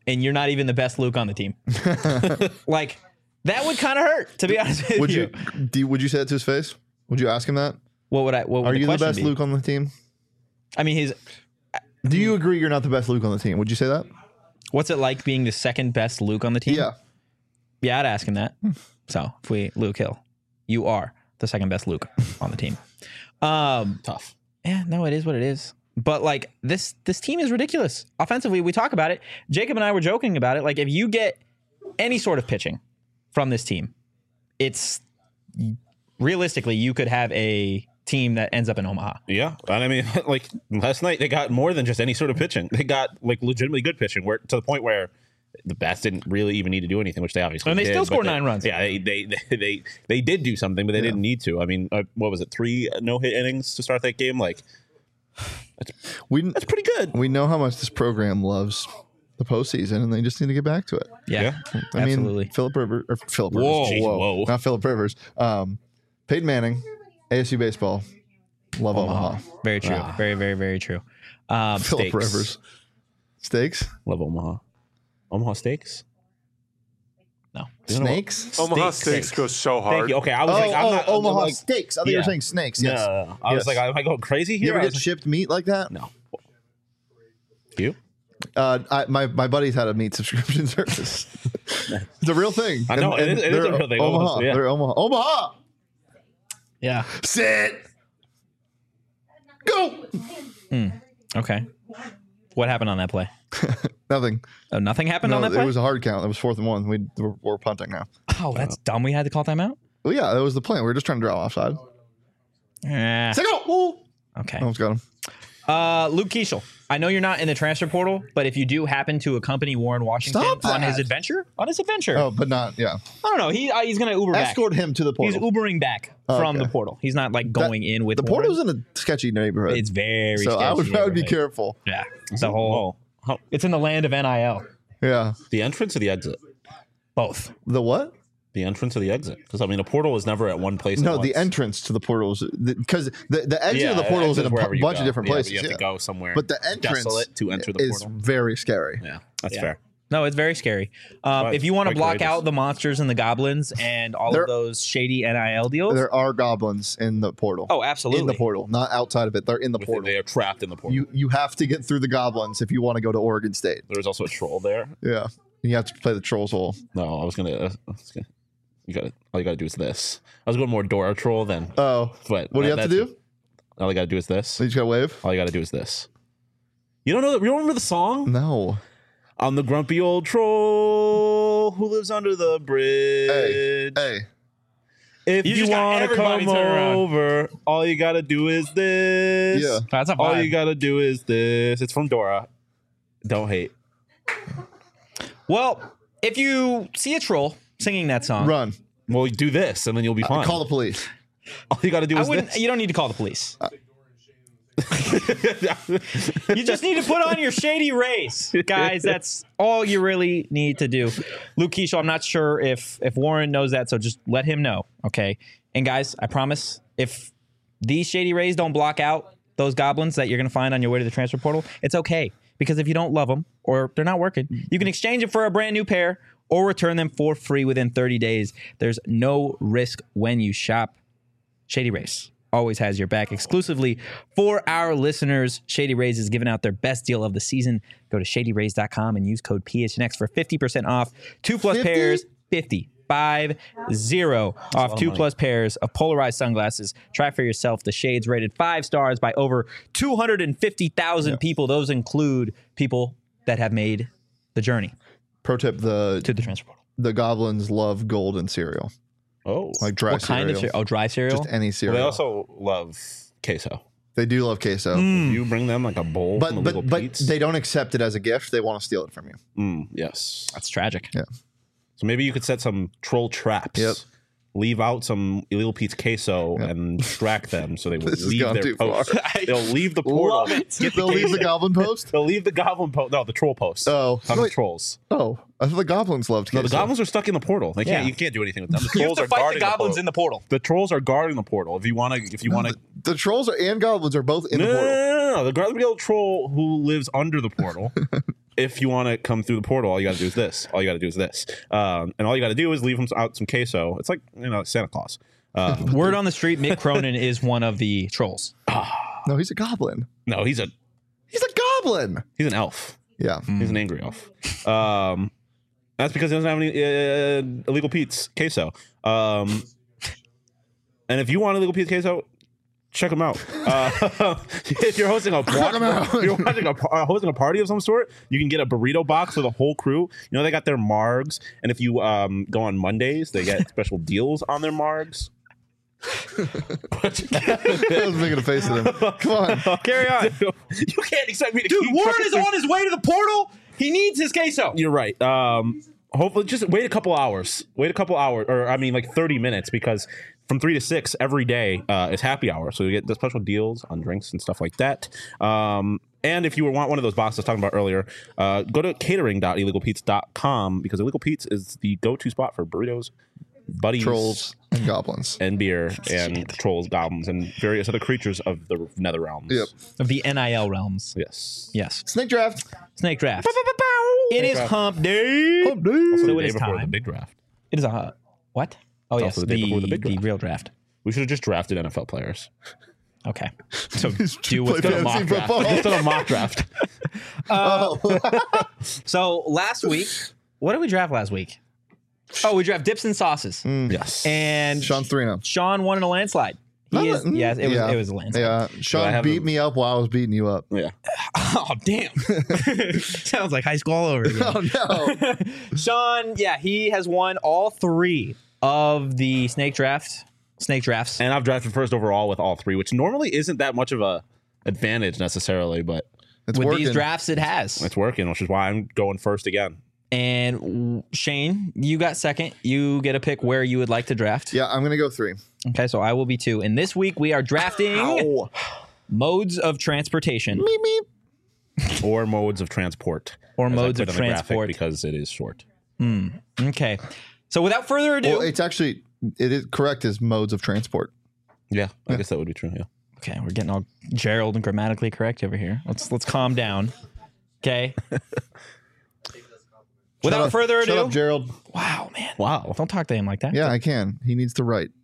and you're not even the best Luke on the team. Like, that would kind of hurt, to be honest with Would you. you do, would you say that to his face? Would you ask him that? What would I? What would Are you the question best be? Luke on the team? I mean, he's. Do you agree you're not the best Luke on the team? Would you say that? What's it like being the second best Luke on the team? Yeah. Yeah, I'd ask him that. So if we Luke Hill, you are the second best Luke on the team. Um, Tough. yeah, no, it is what it is. But like this, this team is ridiculous. Offensively, we talk about it. Jacob and I were joking about it. Like if you get any sort of pitching from this team, it's realistically you could have a team that ends up in Omaha. Yeah, and I mean, like last night they got more than just any sort of pitching. They got like legitimately good pitching, where to the point where the Bats didn't really even need to do anything, which they obviously And they did, still but scored they- nine runs. Yeah, they they they they, they did do something, but they Yeah. didn't need to. I mean, uh, what was it? Three no hit innings to start that game. Like We that's pretty good. we know how much this program loves the postseason, and they just need to get back to it. Yeah, Yeah. I absolutely. mean, Philip Rivers, or Philip Rivers, Whoa. Jeez, whoa, whoa. not Philip Rivers. Um, Peyton Manning, A S U baseball, love Omaha. Very true. Ah. Very, very, very true. Um, Philip Steaks. Rivers, steaks, Love Omaha. Omaha Steaks. no. snakes. Omaha Steaks. Steaks goes so hard. Thank you. Okay, I was Oh, like, I'm oh, not Omaha like, steaks. I thought you Yeah. were saying snakes. No, Yes. no, no. I was Yes. like, am I going crazy You here? ever I get was like, shipped meat like that? no. You? Uh, I, my my buddies had a meat subscription service. It's a real thing. I know, it is- it is a they're real thing. Omaha. Yeah. They're Omaha. Omaha. Yeah. Sit. Go. Okay. What happened on that play? Nothing. Oh, nothing happened No, on that it play? was a hard count. It was fourth and one. We we're, we're punting now. oh, that's dumb. We had to call timeout? Well, yeah, that was the plan. We were just trying to draw offside. Eh, Say go. okay. Almost got him. Uh, Luke Keeschel. I know you're not in the transfer portal, but if you do happen to accompany Warren Washington Stop on his that. adventure, on his adventure, Oh, but not yeah. I don't know. He uh, he's gonna Uber back. Escort him to the He's portal. Ubering back Oh, from okay. the portal. He's not like going in with the Warren. portal's in a sketchy neighborhood. It's very so I would sketchy I would be neighborhood. careful. Yeah, it's a whole. Oh, how, It's in the land of N I L. Yeah. the entrance or the exit? Both. The what? The entrance or the exit? Because I mean, a portal is never at one place. No, at the once. entrance to the portals because the, the exit Yeah, of the portal is in a exit wherever bu- you bunch go. of different Yeah, but places. you have yeah. to go somewhere. But the entrance desolate to enter the is portal. very scary. Yeah, that's Yeah. fair. No, it's very scary. Um, But if you want to quite block courageous. out the monsters and the goblins and all There- of those shady N I L deals. There are goblins in the portal. Oh, absolutely. In the portal, not outside of it. They're in the With portal. it, they are trapped in the portal. You you have to get through the goblins if you want to go to Oregon State. There's also a troll there. Yeah, you have to play the trolls hole. No, I was gonna. Uh, I was gonna you got all you got to do is this. I was going more Dora troll than. Oh, But what do you that- have to that's- do? All you got to do is this. You just gotta wave. All you got to do is this. You don't know? You don't remember the song? No. I'm the grumpy old troll who lives under the bridge. Hey, If You you, just got want to everybody come turn around. over, all you got to do is this. Yeah. That's a All vibe. you got to do is this. It's from Dora. Don't hate. Well, if you see a troll singing that song, run. Well, do this, and then you'll be fine. Call the police. all you got to do I is wouldn't. this. You don't need to call the police. You just need to put on your shady race, guys. That's all you really need to do. Luke Keeschel, I'm not sure if if Warren knows that, so just let him know, okay? And guys, I promise, if these shady rays don't block out those goblins that you're going to find on your way to the transfer portal, it's okay. Because if you don't love them or they're not working, you can exchange it for a brand new pair or return them for free within thirty days. There's no risk when you shop. Shady Rays always has your back. Exclusively for our listeners, Shady Rays is giving out their best deal of the season. Go to shady rays dot com and use code P H N X for fifty percent off. Two plus fifty? pairs, fifty. Five zero off two plus pairs of polarized sunglasses. Try for yourself the shades rated five stars by over two hundred fifty thousand people. Those include people that have made the journey Pro tip: the to the transfer portal. the goblins love golden cereal, Oh, like dry What kind of cereal. cereal? Oh, dry cereal? Just any well, cereal. they also love queso. They do love queso, If you bring them like a bowl but from but Illegal but Pete's, they don't accept it as a gift. They want to steal it from you. mm, yes. That's tragic. Yeah. So maybe you could set some troll traps. Yep. Leave out some Illegal Pete's queso and distract them so they will This has leave gone their too post. far. They'll leave the portal. Love it. Get They'll leave the queso. goblin post. They'll leave the goblin post. No, the troll post. Oh. not the Wait. trolls. Oh, I thought the goblins loved queso. No, the goblins are stuck in the portal. They can't. Yeah. You can't do anything with them. The You have trolls to are fight guarding the goblins the in the portal. The trolls are guarding the portal. If you want to, if you want to, The, the trolls are, and goblins are both in no, the no, no, portal. no, no, no. The grumpy old troll who lives under the portal if you want to come through the portal, all you got to do is this. All you got to do is this. Um, and all you got to do is leave him out some queso. It's like, you know, Santa Claus. Um, Word on the street, Mick Cronin is one of the trolls. No, he's a goblin. no, he's a He's a goblin. he's an elf. Yeah. He's an angry elf. Um, that's because he doesn't have any uh, illegal Pete's queso. Um, and if you want illegal Pete's queso, check him out. Uh, if you're hosting a him out. if you're hosting a, uh, hosting a party of some sort, you can get a burrito box for the whole crew. You know they got their margs, and if you um, go on Mondays, they get special deals on their margs. I was making a face at him. Come on. Carry on. You can't expect me to Dude, keep Warren fucking is things- on his way to the portal. He needs his queso. You're right. Um, hopefully, just wait a couple hours. Wait a couple hours, or I mean, like thirty minutes, because from three to six every day uh, is happy hour. So you get the special deals on drinks and stuff like that. Um, and if you want one of those boxes I was talking about earlier, uh, go to catering dot illegal pete's dot com because Illegal Pete's is the go-to spot for burritos, buddies, Trolls and goblins. and beer, and trolls, goblins, and various other creatures of the nether realms. Yep. Of the N I L realms. Yes. Yes. Snake draft. Snake draft. It is draft. hump day. Oh, dude. Also, So the it day is before time. the big draft. It is a what? Oh yes, also the day the, before the big the draft. real draft. We should have just drafted N F L players. Okay. So Just do play what's going fantasy on. football. Just done a mock draft. Oh. So last week, what did we draft last week? Oh, we draft dips and sauces, Yes. and Sean Thrino. Sean won in a landslide. He Not is a- yes, it was yeah. it was a landslide. Yeah. Sean I have beat a- me up while I was beating you up. Yeah. Oh damn! Sounds like high school all over again. Oh, no. Sean, yeah, he has won all three of the snake draft, snake drafts. And I've drafted first overall with all three, which normally isn't that much of a advantage necessarily, but It's With working. these drafts, it has. it's working, which is why I'm going first again. And Shane, you got second. You get a pick where you would like to draft. Yeah, I'm going to go three. Okay, so I will be two. And this week we are drafting modes of transportation Meep, meep. Or modes of transport. or as I modes put of on the graphic transport. because it is short. Okay. So without further ado, Well, it's actually, it is correct as modes of transport. Yeah, I guess that would be true. Yeah. okay, we're getting all Gerald and grammatically correct over here. Let's let's calm down. Okay. Without Shut up- further Shut ado, up, Gerald. wow, man, Wow. don't talk to him like that. Yeah, I can. He needs to write.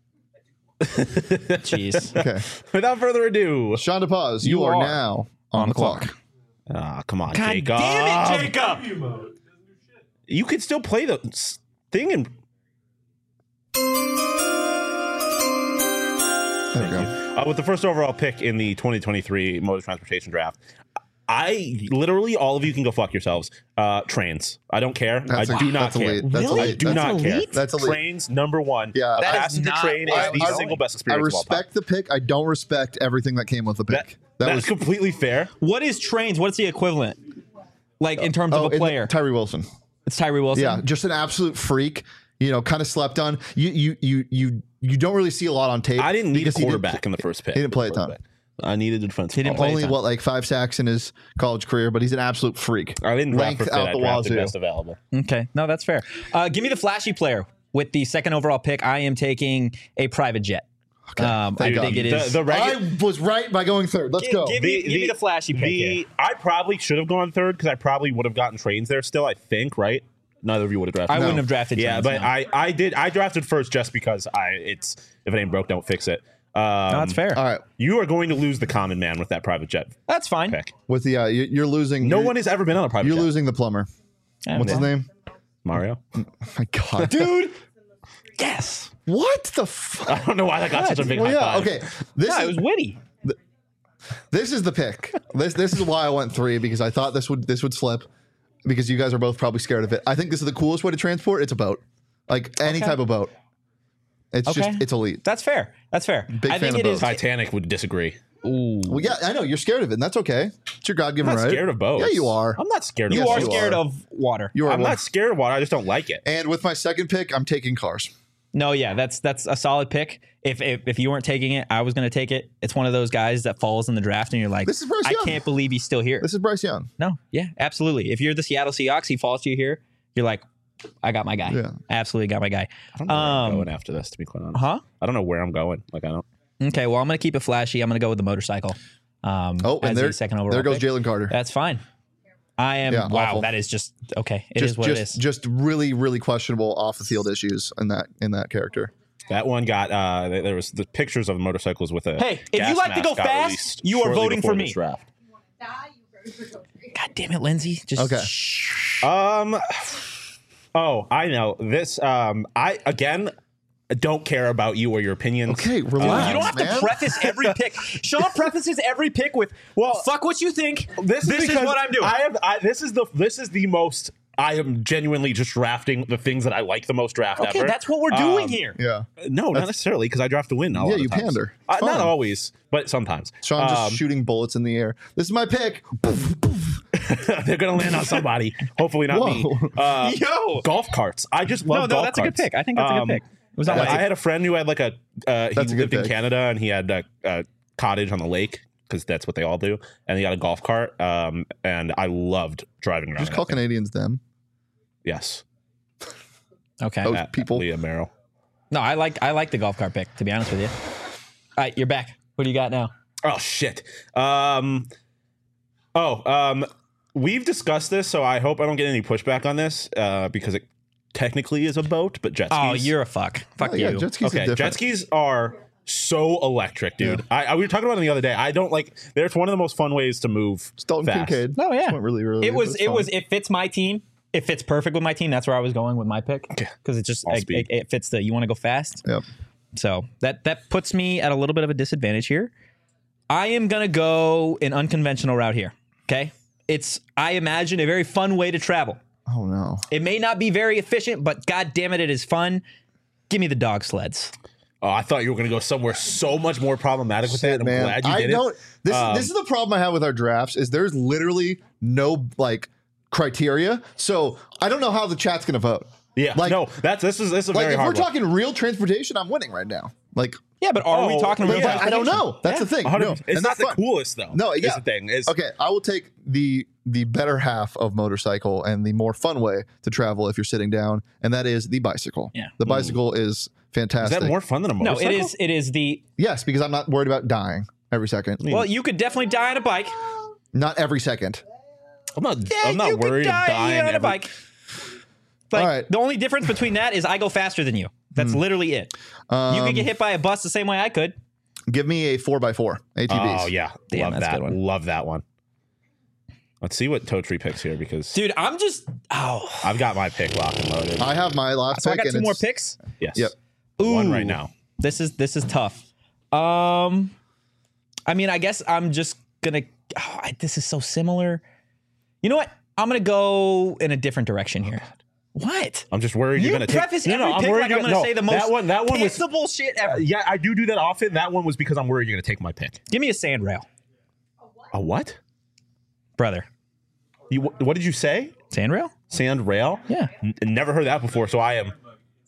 Jeez. Okay. Without further ado. Sean DePaz, you, You are, are now on, the clock. Ah, come on, God Jacob. damn it, Jacob! You could still play the s- thing and There we go. Uh, with the first overall pick in the twenty twenty-three mode of transportation draft, I literally all of you can go fuck yourselves. Uh, trains. I don't care. That's I a- do not that's care. elite. That's Really? I elite. do That's not care. elite? That's elite. Trains number one. Yeah. a That is passenger not train what is I the was single best I experience of all time. respect the pick. I don't respect everything that came with the That, pick. That, that's was completely fair. What is trains? What's the equivalent? Like in terms oh, of a and player? Tyree Wilson. It's Tyree Wilson. Yeah, just an absolute freak. You know, kind of slept on. You you you you you don't really see a lot on tape. I didn't need a because he quarterback in the first pick. he didn't play a ton. I needed a defensive. He didn't ball. play a Only ton. what like five sacks in his college career, but he's an absolute freak. I didn't draft for Length fit. out I the drafted wazoo. best available. Okay. No, that's fair. Uh, give me the flashy player with the second overall pick. I am taking a private jet. Um, I thank think God. it is. The, the I regu- was right by going third. Let's Give- go. give me- give me the flashy pick the- here. I probably should have gone third because I probably would have gotten trains there still. I think right. Neither of you would have drafted. I No. wouldn't have drafted. Yeah, trains, but no. I, I did I drafted first just because I it's if it ain't broke, don't fix it. Um, No, that's fair. All right, You are going to lose the common man with that private jet That's fine. pick. with the uh, you, you're losing. No you're, one has ever been on a private You're jet. losing the plumber. Yeah, What's his well, name? Mario. My God, dude? Yes. What the fuck? I don't know why that got such a big Well, high yeah. five. Okay. This Yeah, it is was witty. this is the pick. This this is why I went three because I thought this would this would slip because you guys are both probably scared of it. I think this is the coolest way to transport. It's a boat, like any Okay. type of boat. It's Okay. just it's elite. That's fair. That's fair. Big I fan think of it is. both. Titanic would disagree. Ooh. Well, yeah, I know you're scared of it, and that's okay. It's your God I'm given not right. scared of boats. Yeah, you are. I'm not scared of You Yes, are boats. you scared are. of water. You are. I'm one- not scared of water. I just don't like it. And with my second pick, I'm taking cars. No, yeah, that's that's a solid pick. If if, if you weren't taking it, I was going to take it. It's one of those guys that falls in the draft, and you're like, This is Bryce I Young. can't believe he's still here. This is Bryce Young. No, yeah, absolutely. If you're the Seattle Seahawks, he falls to you here. You're like, I got my guy. Yeah. Absolutely got my guy. I don't know where I'm Um, going after this, to be quite honest. Huh? I don't know where I'm going. Like I don't. Okay, well, I'm going to keep it flashy. I'm going to go with the motorcycle. Um, Oh, and as there, the second overall there goes pick. Jalen Carter. That's fine. I am. Yeah, wow, awful. that is just okay. It is just what just it is. just really really questionable off the field issues in that in that character. That one got uh there there was the pictures of motorcycles with a Hey, if gas you like to mask go got fast, released you are shortly voting before for this me. draft. God damn it, Lindsay. Just Okay. shh. Um oh, I know. This um I again don't care about you or your opinions. Okay, relax. You don't have man. to preface every pick. Sean prefaces every pick with, Well, "Fuck what you think. This, This is, is because what I'm doing." I have I, this is the this is the most I am genuinely just drafting the things that I like the most draft Okay, ever. that's what we're doing Um, here. Yeah, No, not necessarily because I draft to win. A lot Yeah, of you times. pander. Uh, It's not fine. always, but sometimes. Sean just Um, shooting bullets in the air. This is my pick. they're gonna land on somebody. Hopefully not me. Whoa. Uh, Yo. golf carts. I just No, love no, golf that's a carts. good pick. I think that's a good Um, pick. It was on I, my I had a friend who had like a uh, he That's a good lived in pick. Canada and he had a, a cottage on the lake because that's what they all do, and he had a golf cart. Um, and I loved driving around. Just in call that thing. Canadians them. Yes, Okay. Oh. At people. Leah Merrill. No, I like I like the golf cart pick, to be honest with you. All right, you're back. What do you got now? Oh shit. Um. Oh. Um. We've discussed this, so I hope I don't get any pushback on this, uh, because it technically is a boat, but jet skis. Oh, you're a fuck. Fuck Oh, yeah, you. jet skis Okay, are different. jet skis are so electric, dude. I, I we were talking about it the other day. I don't like. There's one of the most fun ways to move Dalton fast. Kincaid. Oh, yeah. Just went really really. It was it's it fine. was it fits my team. It fits perfect with my team. That's where I was going with my pick because it just All it, speed. it, it fits the you want to go fast. Yep. So that that puts me at a little bit of a disadvantage here. I am gonna go an unconventional route here. Okay, it's I imagine a very fun way to travel. Oh no. It may not be very efficient, but god damn it, it is fun. Give me the dog sleds. Oh, I thought you were going to go somewhere so much more problematic with that. I'm Man, glad you I did don't. it. This Um, this is the problem I have with our drafts. Is there's literally no like criteria, so I don't know how the chat's gonna vote. Yeah, like no, that's this is this is a like very if we're hard one. talking real transportation, I'm winning right now. Like, Yeah, but are we Oh, talking but real? yeah, I don't know. That's the thing. one hundred No, percent. It's and not that's the fun. coolest though. No, is yeah. the thing. Is Okay, I will take the the better half of motorcycle and the more fun way to travel if you're sitting down, and that is the bicycle. Yeah. The bicycle is is fantastic. that more fun than a No, motorcycle? it is. It is the. Yes, because I'm not worried about dying every second. Well, you could definitely die on a bike. Not every second. I'm not. Yeah, I'm not you worried could of die dying on a every- bike. Like, All right. the only difference between that is I go faster than you. That's literally it. you Um, could get hit by a bus the same way I could. Give me a four by four A T Vs. Oh yeah, Damn, love that's a that. good one. Love that one. Let's see what Totri picks here because Dude, I'm just. Oh. I've got my pick locked and loaded. I have my last So I pick. got and two more it's- picks. yes. Yep. One Ooh. right now. This is this is tough. Um, I mean, I guess I'm just gonna. Oh, I, this is so similar. You know what? I'm gonna go in a different direction here. What? I'm just worried You you're going to preface take. every pick worried like you're I'm gonna no, say the most that one. That one was. cancelable shit ever. Yeah, I do do that often. That one was because I'm worried you're going to take my pick. Give me a sand rail, A what? brother. You what did you say? Sand rail? Sand rail? Yeah. N- never heard that before. So I am.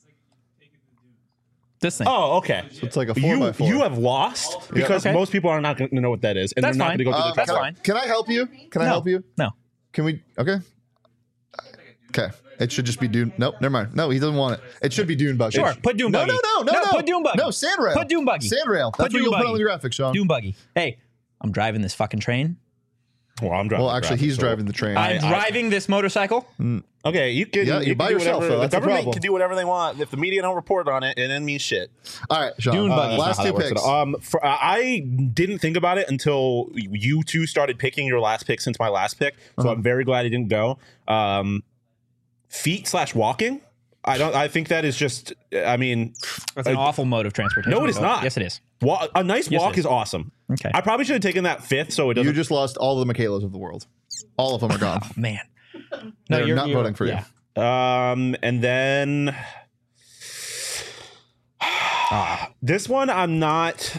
This thing. Oh, okay. It's like a four you by four. you have lost because Okay. most people are not going to know what that is, and That's they're not fine. going to go through Uh, the That's can, I, fine. can I help you? Can I No. help you? No. Can we? Okay. Okay. It should just be Dune. Nope. Never mind. No, he doesn't want it. It should be Dune Buggy. Sure. Put Dune No, Buggy. no, no, no, No, no. put Dune Buggy. No, sand rail. Put Dune Buggy. Sand rail. Put That's what Dune you'll put Buggy. on the graphics, Sean. Dune buggy. Hey, I'm driving this fucking train. Well, I'm driving. Well, the actually, graphic, he's so- driving the train. I'm I- driving this motorcycle. Okay, you can. Yeah, you you're can by do yourself, whatever- though. That's the the government problem. can do whatever they want. If the media don't report on it, it doesn't mean shit. All right, Sean. Dune Uh, Buggy. last That's not two how that works picks. at all. Um, for, uh, I didn't think about it until you two started picking your last pick since my last pick. So Uh-huh. I'm very glad I didn't go. Um, feet slash walking. I don't. I think that is just. I mean, That's an uh, awful mode of transportation. no, it is Oh, not. Yes, it is. wa- a nice Yes, it walk is. is awesome. Okay. I probably should have taken that fifth, so it You doesn't. just lost all of the Michaelas of the world. All of them are gone. Man. They're not voting for you. yeah. Um, and then this one, I'm not.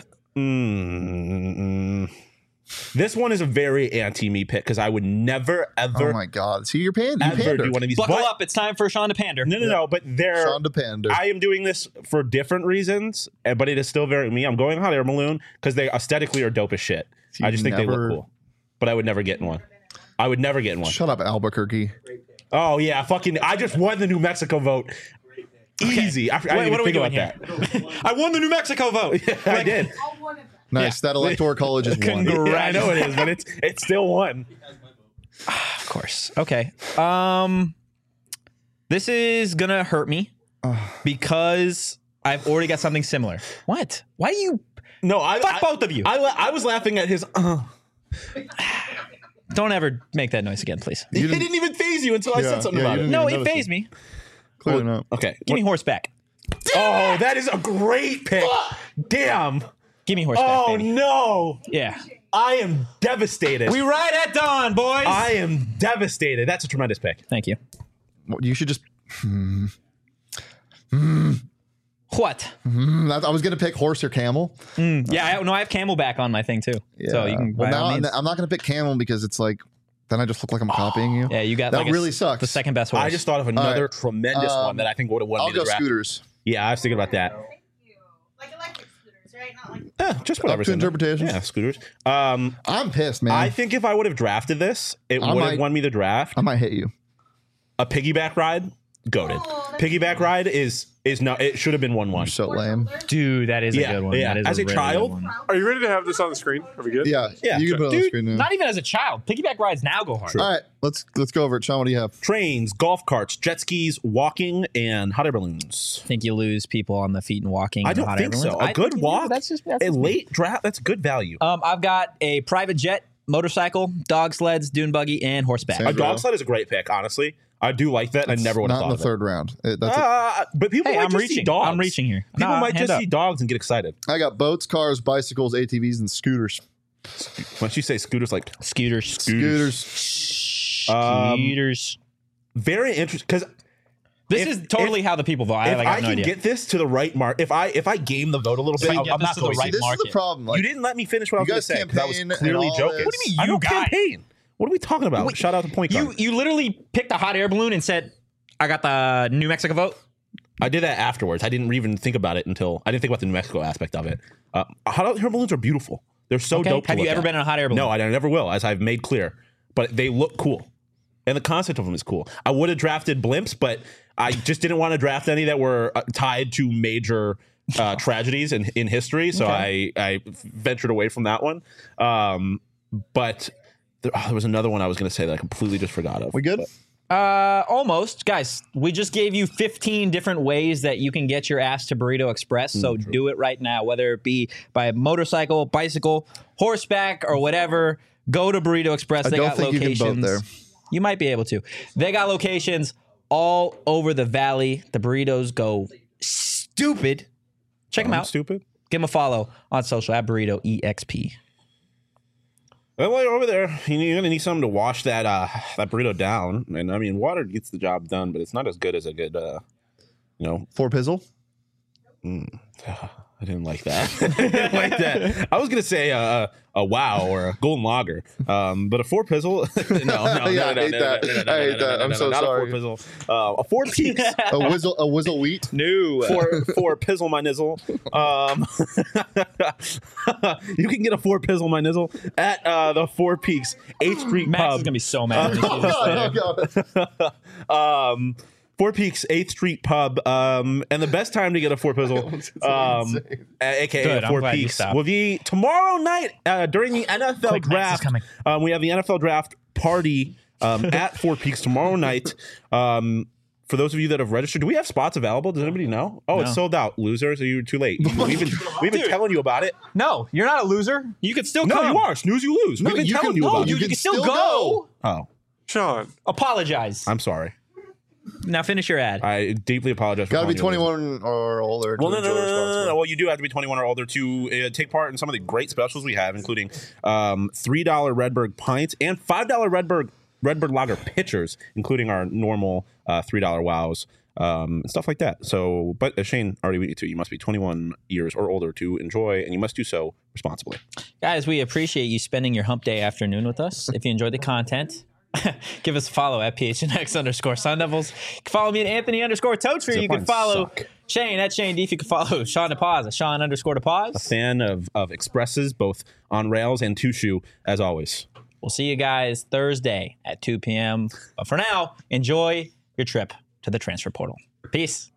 Mm, this one is a very anti-me pick because I would never, ever, Oh my God! See, you're paying. You ever pandered. do one of these. Buckle But- up. It's time for Sean to pander. No, no, no. But they're. Sean to pander. I am doing this for different reasons, eh, but it is still very me. I'm going hot air balloon because they aesthetically are dope as shit. You I just think they never- look cool, but I would never get in one. I would never get in one. Shut up, Albuquerque. Oh yeah, fucking! I just won the New Mexico vote. Easy. I, I didn't Wait, even what are we think doing about here? that. I won the New Mexico vote. I did. Nice. That electoral college is one. Congrats. Yeah, I know it is, but it's it's still one. Of course. Okay. Um, this is gonna hurt me because I've already got something similar. What? Why do you? No, I Fuck I, both of you. I, I was laughing at his. Uh, Don't ever make that noise again, please. it didn't- didn't even phase you until I Yeah, said something yeah, about you it. didn't No, even it notice phased me. Clearly not. Okay. Give me horseback. Oh, that is a great pick. Damn. Give me horseback, Oh baby. no. Yeah. I am devastated. We ride at dawn, boys. I am devastated. That's a tremendous pick. Thank you. Well, you should just. What? Mm, I I was gonna pick horse or camel. Yeah, I, no, I have Camelback on my thing too. So you can. Well, by all now means- I'm not gonna pick camel because it's like then I just look like I'm copying you. Yeah, you got that like a really s- sucks. The second best horse. I just thought of another right. tremendous Um, one that I think would have won I'll me the go draft. scooters. Yeah, I was thinking about that. Thank you. Like electric scooters, right? Not like Eh, just whatever. to interpretation. Yeah, scooters. Um, I'm pissed, man. I think if I would have drafted this, it I would might- have won me the draft. I might hit you. A piggyback ride, goated. Oh, that's Piggyback ride is is no. It should have been one one. You're so lame. Dude, that is Yeah, a good one. yeah. That is As a really child, good one. Are you ready to have this on the screen? Are we good? Yeah, Yeah, You sure. can put it on the Dude, screen now. not even as a child. Piggyback rides now go hard. All right, let's let's go over it. Sean, what do you have? Trains, golf carts, jet skis, walking, and hot air balloons. I think you lose people on the feet and walking. I and don't hot think air so. balloons. A I good think you do. walk, That's just that's a just me. late draft. That's good value. Um, I've got a private jet, motorcycle, dog sleds, dune buggy, and horseback. Same. A dog sled is a great pick. Honestly, I do like that. I never would have Not thought in the of third round. It- it. that's it. Uh, but people Hey, might I'm just reaching. see dogs. I'm reaching here. People Nah, might hand just up. see dogs and get excited. I got boats, cars, bicycles, A T Vs, and scooters. Once you say scooters, like Scooters. Scooters. Um, Scooters. very interesting because This if- is totally how the people vote. I, if like, I have no can idea. get this to the right mark, if I if I game the vote a little So bit, you I'm, get I'm this not to the going right to. This market. is the problem. Like, You didn't let me finish what I was You going to guys say because I was campaign and clearly all joking. this. What do you mean, I you don't guy? campaign. What are we talking about? Wait, Shout out to Point You Guard. you literally picked a hot air balloon and said, "I got the New Mexico vote." I did that afterwards. I didn't even think about it until I didn't think about the New Mexico aspect of it. Uh, hot air balloons are beautiful. They're so Okay. dope. to Have you look ever at. been in a hot air balloon? No, I never will, as I've made clear. But they look cool, and the concept of them is cool. I would have drafted blimps, but I just didn't want to draft any that were uh, tied to major uh, tragedies in, in history. So I, I ventured away from that one. Um, but there, oh, there was another one I was going to say that I completely just forgot of. we good? Uh, almost, guys. We just gave you fifteen different ways that you can get your ass to Burrito Express. So do it right now, whether it be by motorcycle, bicycle, horseback, or whatever. Go to Burrito Express. I They don't got think you can locations. vote there. You might be able to. They got locations all over the valley. The burritos go stupid. Check them I'm out. stupid. Give them a follow on social at Burrito E X P. Well, while you're over there, you're gonna need something to wash that uh, that burrito down. And I mean, water gets the job done, but it's not as good as a good, uh, you know. Four pizzle. I didn't like that. I didn't like that. I was gonna say a, a wow or a golden lager, um, but a four pizzle. no, no, Yeah, I no, no, hate no, that. no, no, no, I hate no, no, that. no, I'm no, so not sorry. A four pizzle, uh, a four peaks. A whizzle. A whizzle wheat. No. For for pizzle my nizzle, um, you can get a four pizzle my nizzle at uh, the Four Peaks eighth Street Max Pub. is gonna be so mad. when he sees this Oh, later. God. um, Four Peaks eighth Street Pub, um, and the best time to get a four pizzle, um, a- aka Good, I'm Four glad you Peaks, stopped. will be tomorrow night uh, during the N F L Quick, Max is draft. coming. Um, we have the N F L draft party um, at Four Peaks tomorrow night. Um, for those of you that have registered, do we have spots available? Does anybody know? Oh, No. it's sold out. Losers, are you too late? We've been we've been telling you about it. No, you're not a loser. You could still No, come. you are. Snooze, you lose. We've been you telling can- you no, about You, it. you can can still still go. Oh, Sean, Apologize. I'm sorry. Now finish your ad. I deeply apologize. For Got to be calling you a loser. twenty-one or older. to Well, no, no, enjoy no, no, no, no, responsibly. no. Well, you do have to be twenty-one or older to uh, take part in some of the great specials we have, including um, three dollar Redberg pints and five dollar Redberg Redbird Lager pitchers, including our normal uh, three dollar wows um, and stuff like that. So, but as Shane already beat you to, you must be twenty-one years or older to enjoy, and you must do so responsibly. Guys, we appreciate you spending your hump day afternoon with us. If you enjoyed the content, give us a follow at P H N X underscore Sun Devils. You can follow me at Anthony underscore Toadtree. Zip You can lines follow suck. Shane at Shane Deef. You can follow Sean DePaz at Sean underscore DePaz. Fan of, of expresses, both on rails and two shoe, as always. We'll see you guys Thursday at two p.m. But for now, enjoy your trip to the transfer portal. Peace.